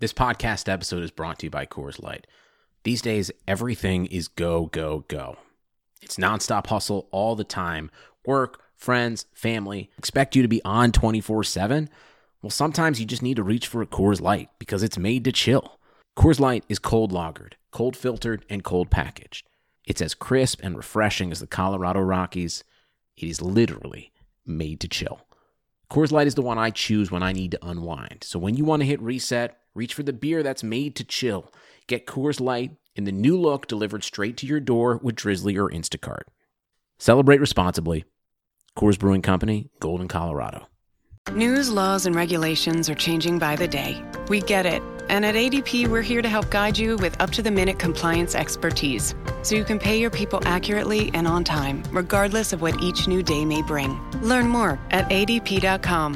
This podcast episode is brought to you by Coors Light. These days, everything is go, go, go. It's nonstop hustle all the time. Work, friends, family expect you to be on 24/7. Well, sometimes you just need to reach for a Coors Light because it's made to chill. Coors Light is cold lagered, cold filtered, and cold packaged. It's as crisp and refreshing as the Colorado Rockies. It is literally made to chill. Coors Light is the one I choose when I need to unwind. So when you want to hit reset, reach for the beer that's made to chill. Get Coors Light in the new look delivered straight to your door with Drizzly or Instacart. Celebrate responsibly. Coors Brewing Company, Golden, Colorado. News, laws, and regulations are changing by the day. We get it. And at ADP, we're here to help guide you with up-to-the-minute compliance expertise, so you can pay your people accurately and on time, regardless of what each new day may bring. Learn more at adp.com.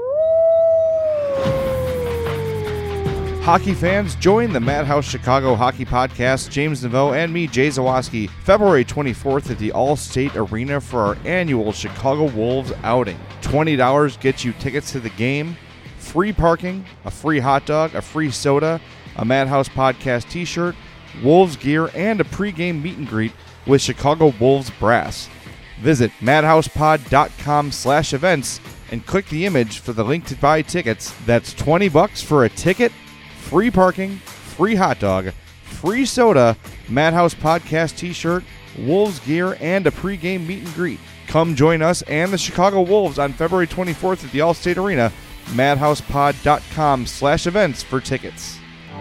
Hockey fans, join the Madhouse Chicago Hockey Podcast, James Neveau and me, Jay Zawaski, February 24th at the All-State Arena for our annual Chicago Wolves outing. $20 gets you tickets to the game, free parking, a free hot dog, a free soda, a Madhouse Podcast t-shirt, Wolves gear, and a pregame meet and greet with Chicago Wolves brass. Visit madhousepod.com/events and click the image for the link to buy tickets. That's $20 for a ticket, free parking, free hot dog, free soda, Madhouse Podcast t-shirt, Wolves gear, and a pregame meet and greet. Come join us and the Chicago Wolves on February 24th at the All-State Arena. madhousepod.com/events for tickets.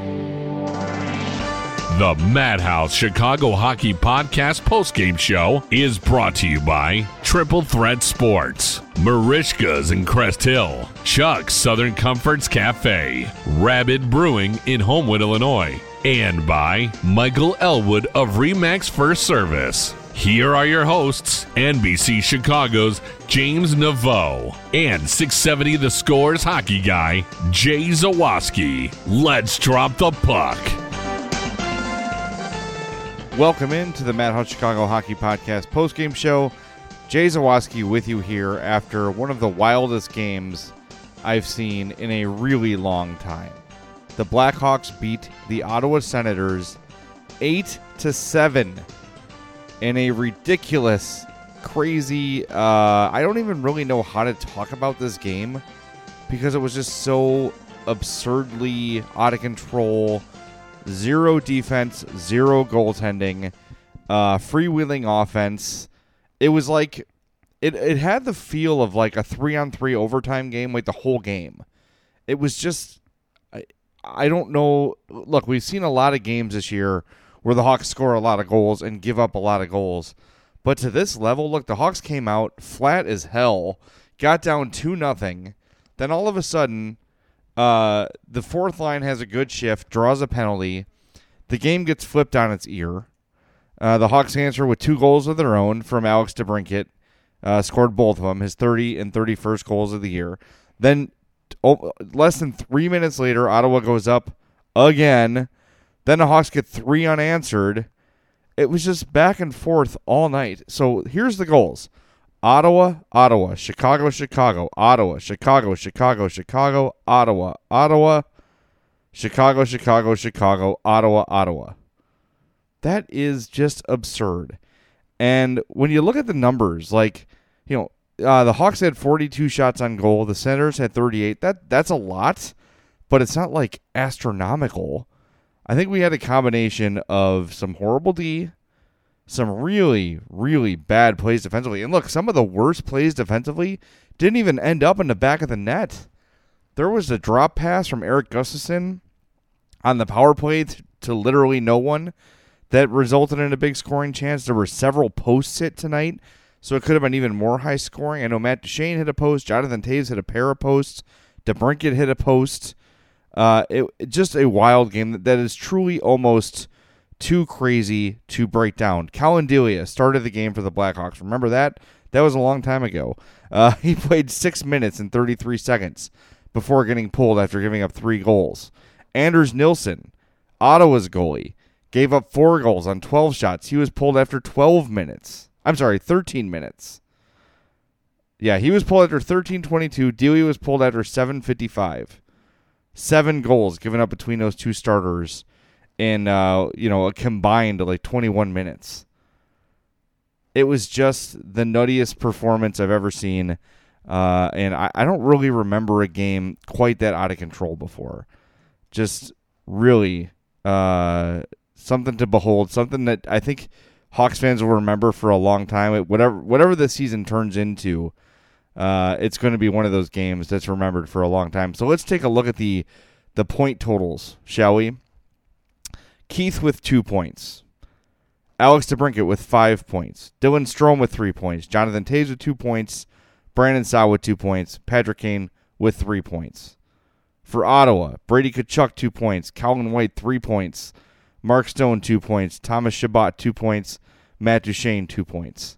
The Madhouse Chicago Hockey Podcast postgame show is brought to you by Triple Threat Sports, Marishka's in Crest Hill, Chuck's Southern Comforts Cafe, Rabid Brewing in Homewood, Illinois, and by Michael Elwood of Remax First Service. Here are your hosts, NBC Chicago's James Neveau and 670 The Score's hockey guy, Jay Zawaski. Let's drop the puck. Welcome into the Madhouse Chicago Hockey Podcast postgame show. Jay Zawaski with you here after one of the wildest games I've seen in a really long time. The Blackhawks beat the Ottawa Senators 8-7 in a ridiculous, crazy, I don't even really know how to talk about this game because it was just so absurdly out of control. Zero defense, zero goaltending, freewheeling offense. It was like, it had the feel of like a 3-on-3 overtime game, like the whole game. It was just, I don't know. Look, we've seen a lot of games this year where the Hawks score a lot of goals and give up a lot of goals. But to this level, look, the Hawks came out flat as hell, got down 2-0. Then all of a sudden, the fourth line has a good shift, draws a penalty. The game gets flipped on its ear. The Hawks answer with 2 goals of their own from Alex DeBrincat. Scored both of them, his 30 and 31st goals of the year. Then less than 3 minutes later, Ottawa goes up again. Then the Hawks get 3 unanswered. It was just back and forth all night. So here's the goals. Ottawa, Ottawa, Chicago, Chicago, Ottawa, Chicago, Chicago, Chicago, Ottawa, Ottawa, Chicago, Chicago, Chicago, Ottawa, Ottawa. That is just absurd. And when you look at the numbers, like, you know, the Hawks had 42 shots on goal. The Senators had 38. That's a lot, but it's not like astronomical. I think we had a combination of some horrible D, some really, really bad plays defensively. And look, some of the worst plays defensively didn't even end up in the back of the net. There was a drop pass from Eric Gustafsson on the power play to literally no one that resulted in a big scoring chance. There were several posts hit tonight, so it could have been even more high scoring. I know Matt Duchene hit a post. Jonathan Toews hit a pair of posts. DeBrincat hit a post. Just a wild game that is truly almost too crazy to break down. Colin Delia started the game for the Blackhawks. Remember that? That was a long time ago. He played 6 minutes and 33 seconds before getting pulled after giving up 3 goals. Anders Nilsson, Ottawa's goalie, gave up 4 goals on 12 shots. He was pulled after 13 minutes. Yeah, he was pulled after 13:22. Delia was pulled after 7:55. 7 goals given up between those two starters in a combined like 21 minutes. It was just the nuttiest performance I've ever seen, and I don't really remember a game quite that out of control before. Just really something to behold, something that I think Hawks fans will remember for a long time. Whatever the season turns into, it's going to be one of those games that's remembered for a long time. So let's take a look at the point totals, shall we? Keith with 2 points. Alex DeBrincat with 5 points. Dylan Strome with 3 points. Jonathan Toews with 2 points. Brandon Saad with 2 points. Patrick Kane with 3 points. For Ottawa, Brady Tkachuk 2 points. Colin White 3 points. Mark Stone 2 points. Thomas Chabot 2 points. Matt Duchene 2 points.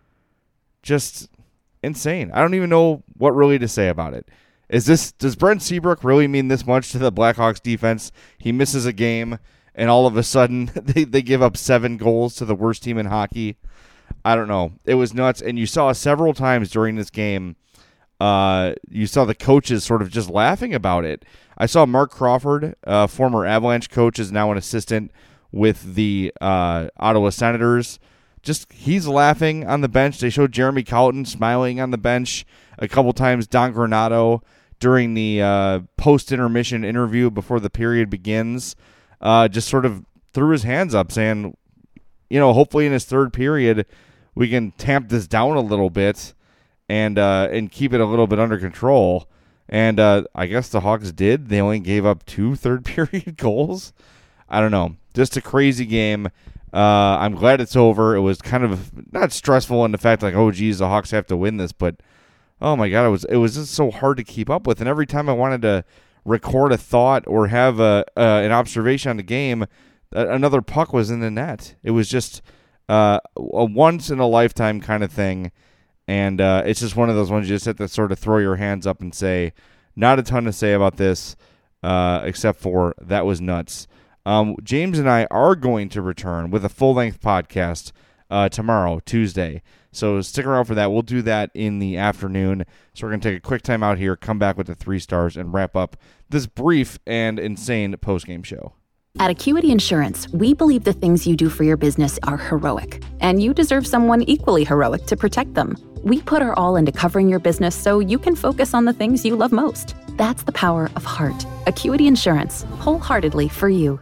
Just insane. I don't even know what really to say about it. Does Brent Seabrook really mean this much to the Blackhawks defense? He misses a game, and all of a sudden they give up 7 goals to the worst team in hockey. I don't know. It was nuts, and you saw several times during this game, you saw the coaches sort of just laughing about it. I saw Mark Crawford, former Avalanche coach, is now an assistant with the Ottawa Senators. He's laughing on the bench. They showed Jeremy Colleton smiling on the bench a couple times. Don Granato during the post-intermission interview before the period begins just sort of threw his hands up saying, hopefully in his third period we can tamp this down a little bit and keep it a little bit under control. And I guess the Hawks did. They only gave up 2 third-period goals. I don't know. Just a crazy game. I'm glad it's over. It was kind of not stressful in the fact like, oh, geez, the Hawks have to win this. But, oh, my God, it was just so hard to keep up with. And every time I wanted to record a thought or have an observation on the game, another puck was in the net. It was just a once-in-a-lifetime kind of thing. And it's just one of those ones you just have to sort of throw your hands up and say, not a ton to say about this, except for that was nuts. James and I are going to return with a full-length podcast tomorrow, Tuesday. So stick around for that. We'll do that in the afternoon. So we're going to take a quick time out here, come back with the 3 stars, and wrap up this brief and insane post-game show. At Acuity Insurance, we believe the things you do for your business are heroic, and you deserve someone equally heroic to protect them. We put our all into covering your business so you can focus on the things you love most. That's the power of heart. Acuity Insurance, wholeheartedly for you.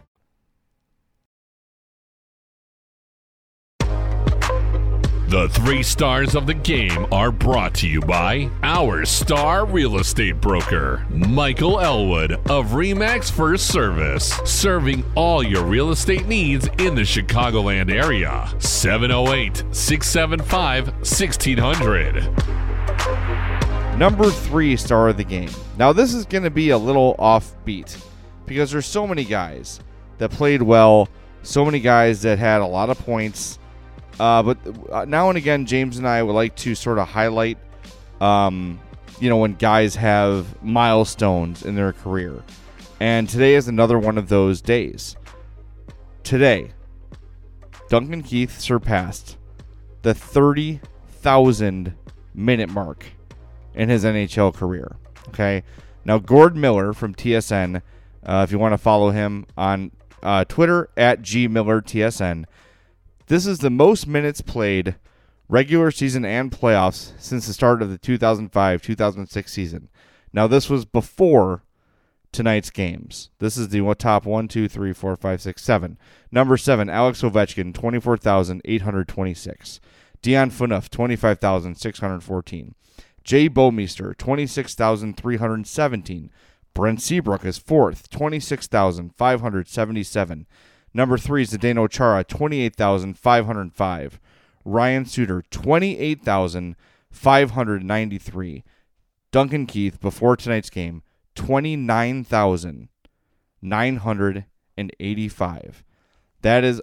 The 3 stars of the game are brought to you by our star real estate broker, Michael Elwood of RE/MAX First Service, serving all your real estate needs in the Chicagoland area. 708-675-1600. Number 3 star of the game. Now, this is going to be a little offbeat because there's so many guys that played well, so many guys that had a lot of points. But now and again, James and I would like to sort of highlight, when guys have milestones in their career. And today is another one of those days. Today, Duncan Keith surpassed the 30,000 minute mark in his NHL career. Okay. Now, Gord Miller from TSN, if you want to follow him on Twitter at GMillerTSN, this is the most minutes played, regular season and playoffs, since the start of the 2005-2006 season. Now, this was before tonight's games. This is the top 1, 2, 3, 4, 5, 6, 7. Number 7, Alex Ovechkin, 24,826. Dion Phaneuf, 25,614. Jay Bouwmeester, 26,317. Brent Seabrook is 4th, 26,577. Number 3 is Zdeno Chara, 28,505. Ryan Suter, 28,593. Duncan Keith, before tonight's game, 29,985. That is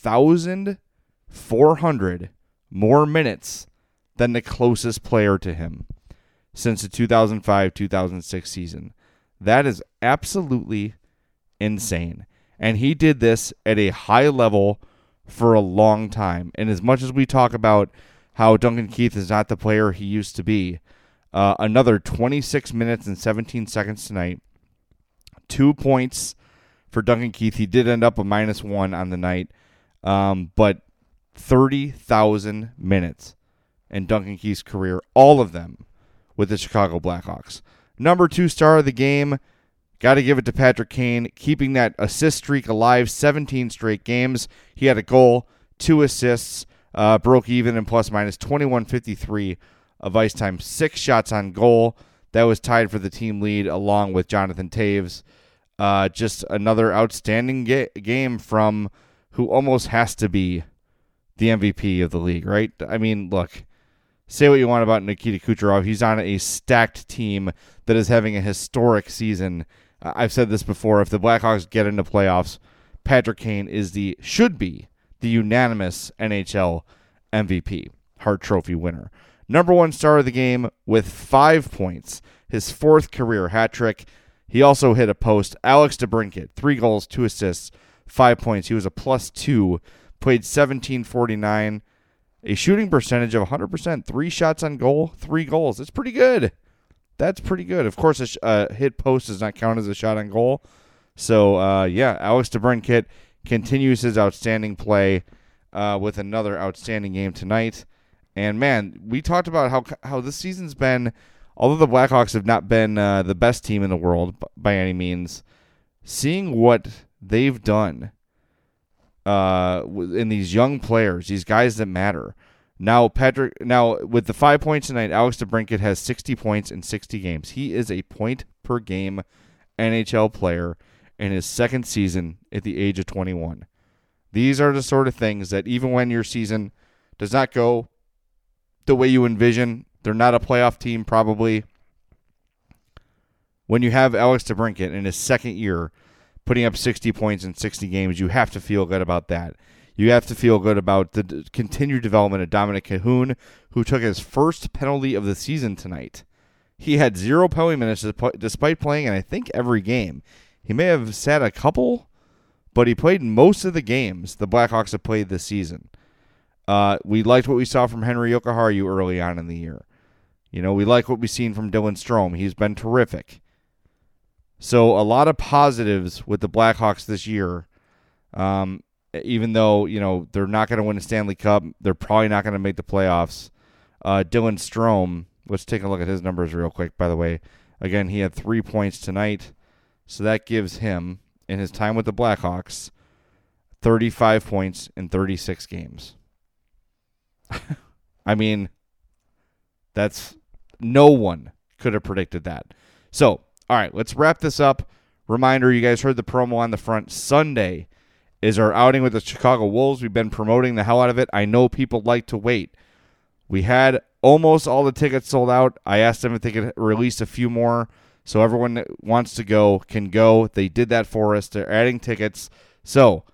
1,400 more minutes than the closest player to him since the 2005-2006 season. That is absolutely insane. And he did this at a high level for a long time. And as much as we talk about how Duncan Keith is not the player he used to be, another 26 minutes and 17 seconds tonight, 2 points for Duncan Keith. He did end up a -1 on the night, but 30,000 minutes in Duncan Keith's career, all of them with the Chicago Blackhawks. Number 2 star of the game, got to give it to Patrick Kane, keeping that assist streak alive, 17 straight games. He had a goal, 2 assists, broke even in plus-minus 21.53 of ice time, 6 shots on goal. That was tied for the team lead along with Jonathan Taves. Just another outstanding game from who almost has to be the MVP of the league, right? I mean, look, say what you want about Nikita Kucherov. He's on a stacked team that is having a historic season. I've said this before. If the Blackhawks get into playoffs, Patrick Kane should be the unanimous NHL MVP, Hart Trophy winner. Number 1 star of the game with 5 points, his 4th career hat trick. He also hit a post. Alex DeBrincat, 3 goals, 2 assists, 5 points. He was a +2, played 17.49, a shooting percentage of 100%, 3 shots on goal, 3 goals. That's pretty good. That's pretty good. Of course, a hit post does not count as a shot on goal. So, Alex DeBrincat continues his outstanding play with another outstanding game tonight. And, man, we talked about how this season's been, although the Blackhawks have not been the best team in the world by any means, seeing what they've done in these young players, these guys that matter. Now, with the 5 points tonight, Alex DeBrincat has 60 points in 60 games. He is a point-per-game NHL player in his 2nd season at the age of 21. These are the sort of things that even when your season does not go the way you envision, they're not a playoff team probably. When you have Alex DeBrincat in his 2nd year putting up 60 points in 60 games, you have to feel good about that. You have to feel good about the continued development of Dominic Cahoon, who took his first penalty of the season tonight. He had 0 penalty minutes despite playing in, I think, every game. He may have sat a couple, but he played most of the games the Blackhawks have played this season. We liked what we saw from Henry Jokiharju early on in the year. We like what we've seen from Dylan Strome. He's been terrific. So a lot of positives with the Blackhawks this year. Even though, they're not going to win a Stanley Cup, they're probably not going to make the playoffs. Dylan Strome, let's take a look at his numbers real quick, by the way. Again, he had 3 points tonight, so that gives him, in his time with the Blackhawks, 35 points in 36 games. I mean, no one could have predicted that. So, all right, let's wrap this up. Reminder, you guys heard the promo on the front. Sunday is our outing with the Chicago Wolves. We've been promoting the hell out of it. I know people like to wait. We had almost all the tickets sold out. I asked them if they could release a few more so everyone that wants to go can go. They did that for us. They're adding tickets. So,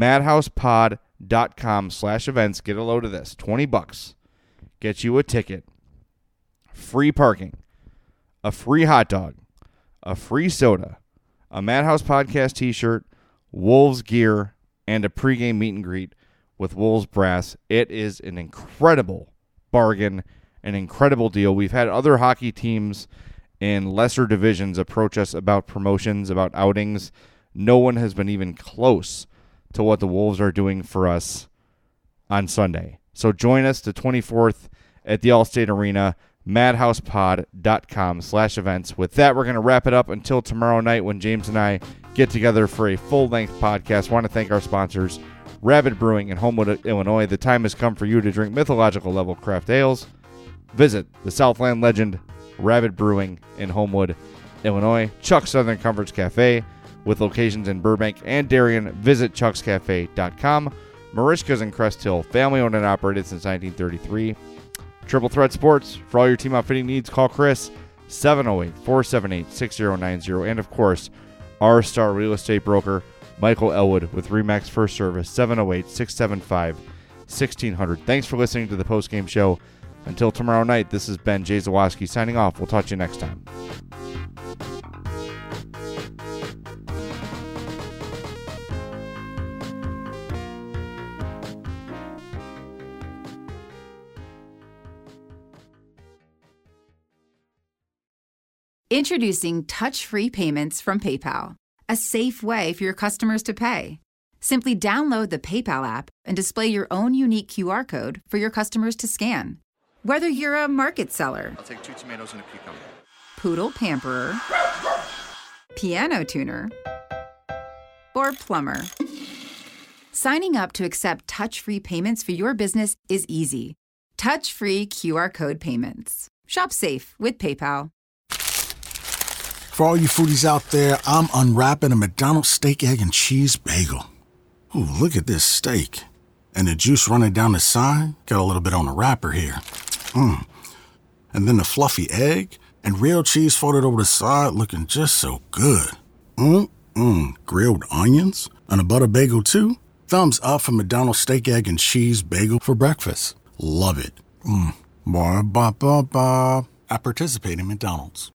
madhousepod.com/events. Get a load of this. $20. Get you a ticket. Free parking. A free hot dog. A free soda. A Madhouse Podcast t-shirt. Wolves gear. And a pregame meet and greet with Wolves Brass. It is an incredible bargain, an incredible deal. We've had other hockey teams in lesser divisions approach us about promotions, about outings. No one has been even close to what the Wolves are doing for us on Sunday. So join us the 24th at the Allstate Arena, madhousepod.com/events. With that, we're going to wrap it up until tomorrow night when James and I get together for a full-length podcast. I want to thank our sponsors, Rabid Brewing in Homewood, Illinois. The time has come for you to drink mythological level craft ales. Visit the Southland legend, Rabid Brewing in Homewood, Illinois. Chuck's Southern Comforts Cafe with locations in Burbank and Darien. Visit chuckscafe.com. Marishka's in Crest Hill, family-owned and operated since 1933. Triple Threat Sports, for all your team outfitting needs, call Chris, 708-478-6090. And, of course, our star real estate broker, Michael Elwood, with RE/MAX First Service, 708-675-1600. Thanks for listening to the postgame show. Until tomorrow night, this is Ben Jay Zawaski signing off. We'll talk to you next time. Introducing touch-free payments from PayPal, a safe way for your customers to pay. Simply download the PayPal app and display your own unique QR code for your customers to scan. Whether you're a market seller, I'll take 2 tomatoes and a cucumber, poodle pamperer, piano tuner, or plumber, signing up to accept touch-free payments for your business is easy. Touch-free QR code payments. Shop safe with PayPal. For all you foodies out there, I'm unwrapping a McDonald's steak, egg, and cheese bagel. Ooh, look at this steak. And the juice running down the side, got a little bit on the wrapper here. And then the fluffy egg and real cheese folded over the side, looking just so good. Grilled onions and a butter bagel too. Thumbs up for McDonald's steak, egg, and cheese bagel for breakfast. Love it. Ba-ba-ba-ba. I participate in McDonald's.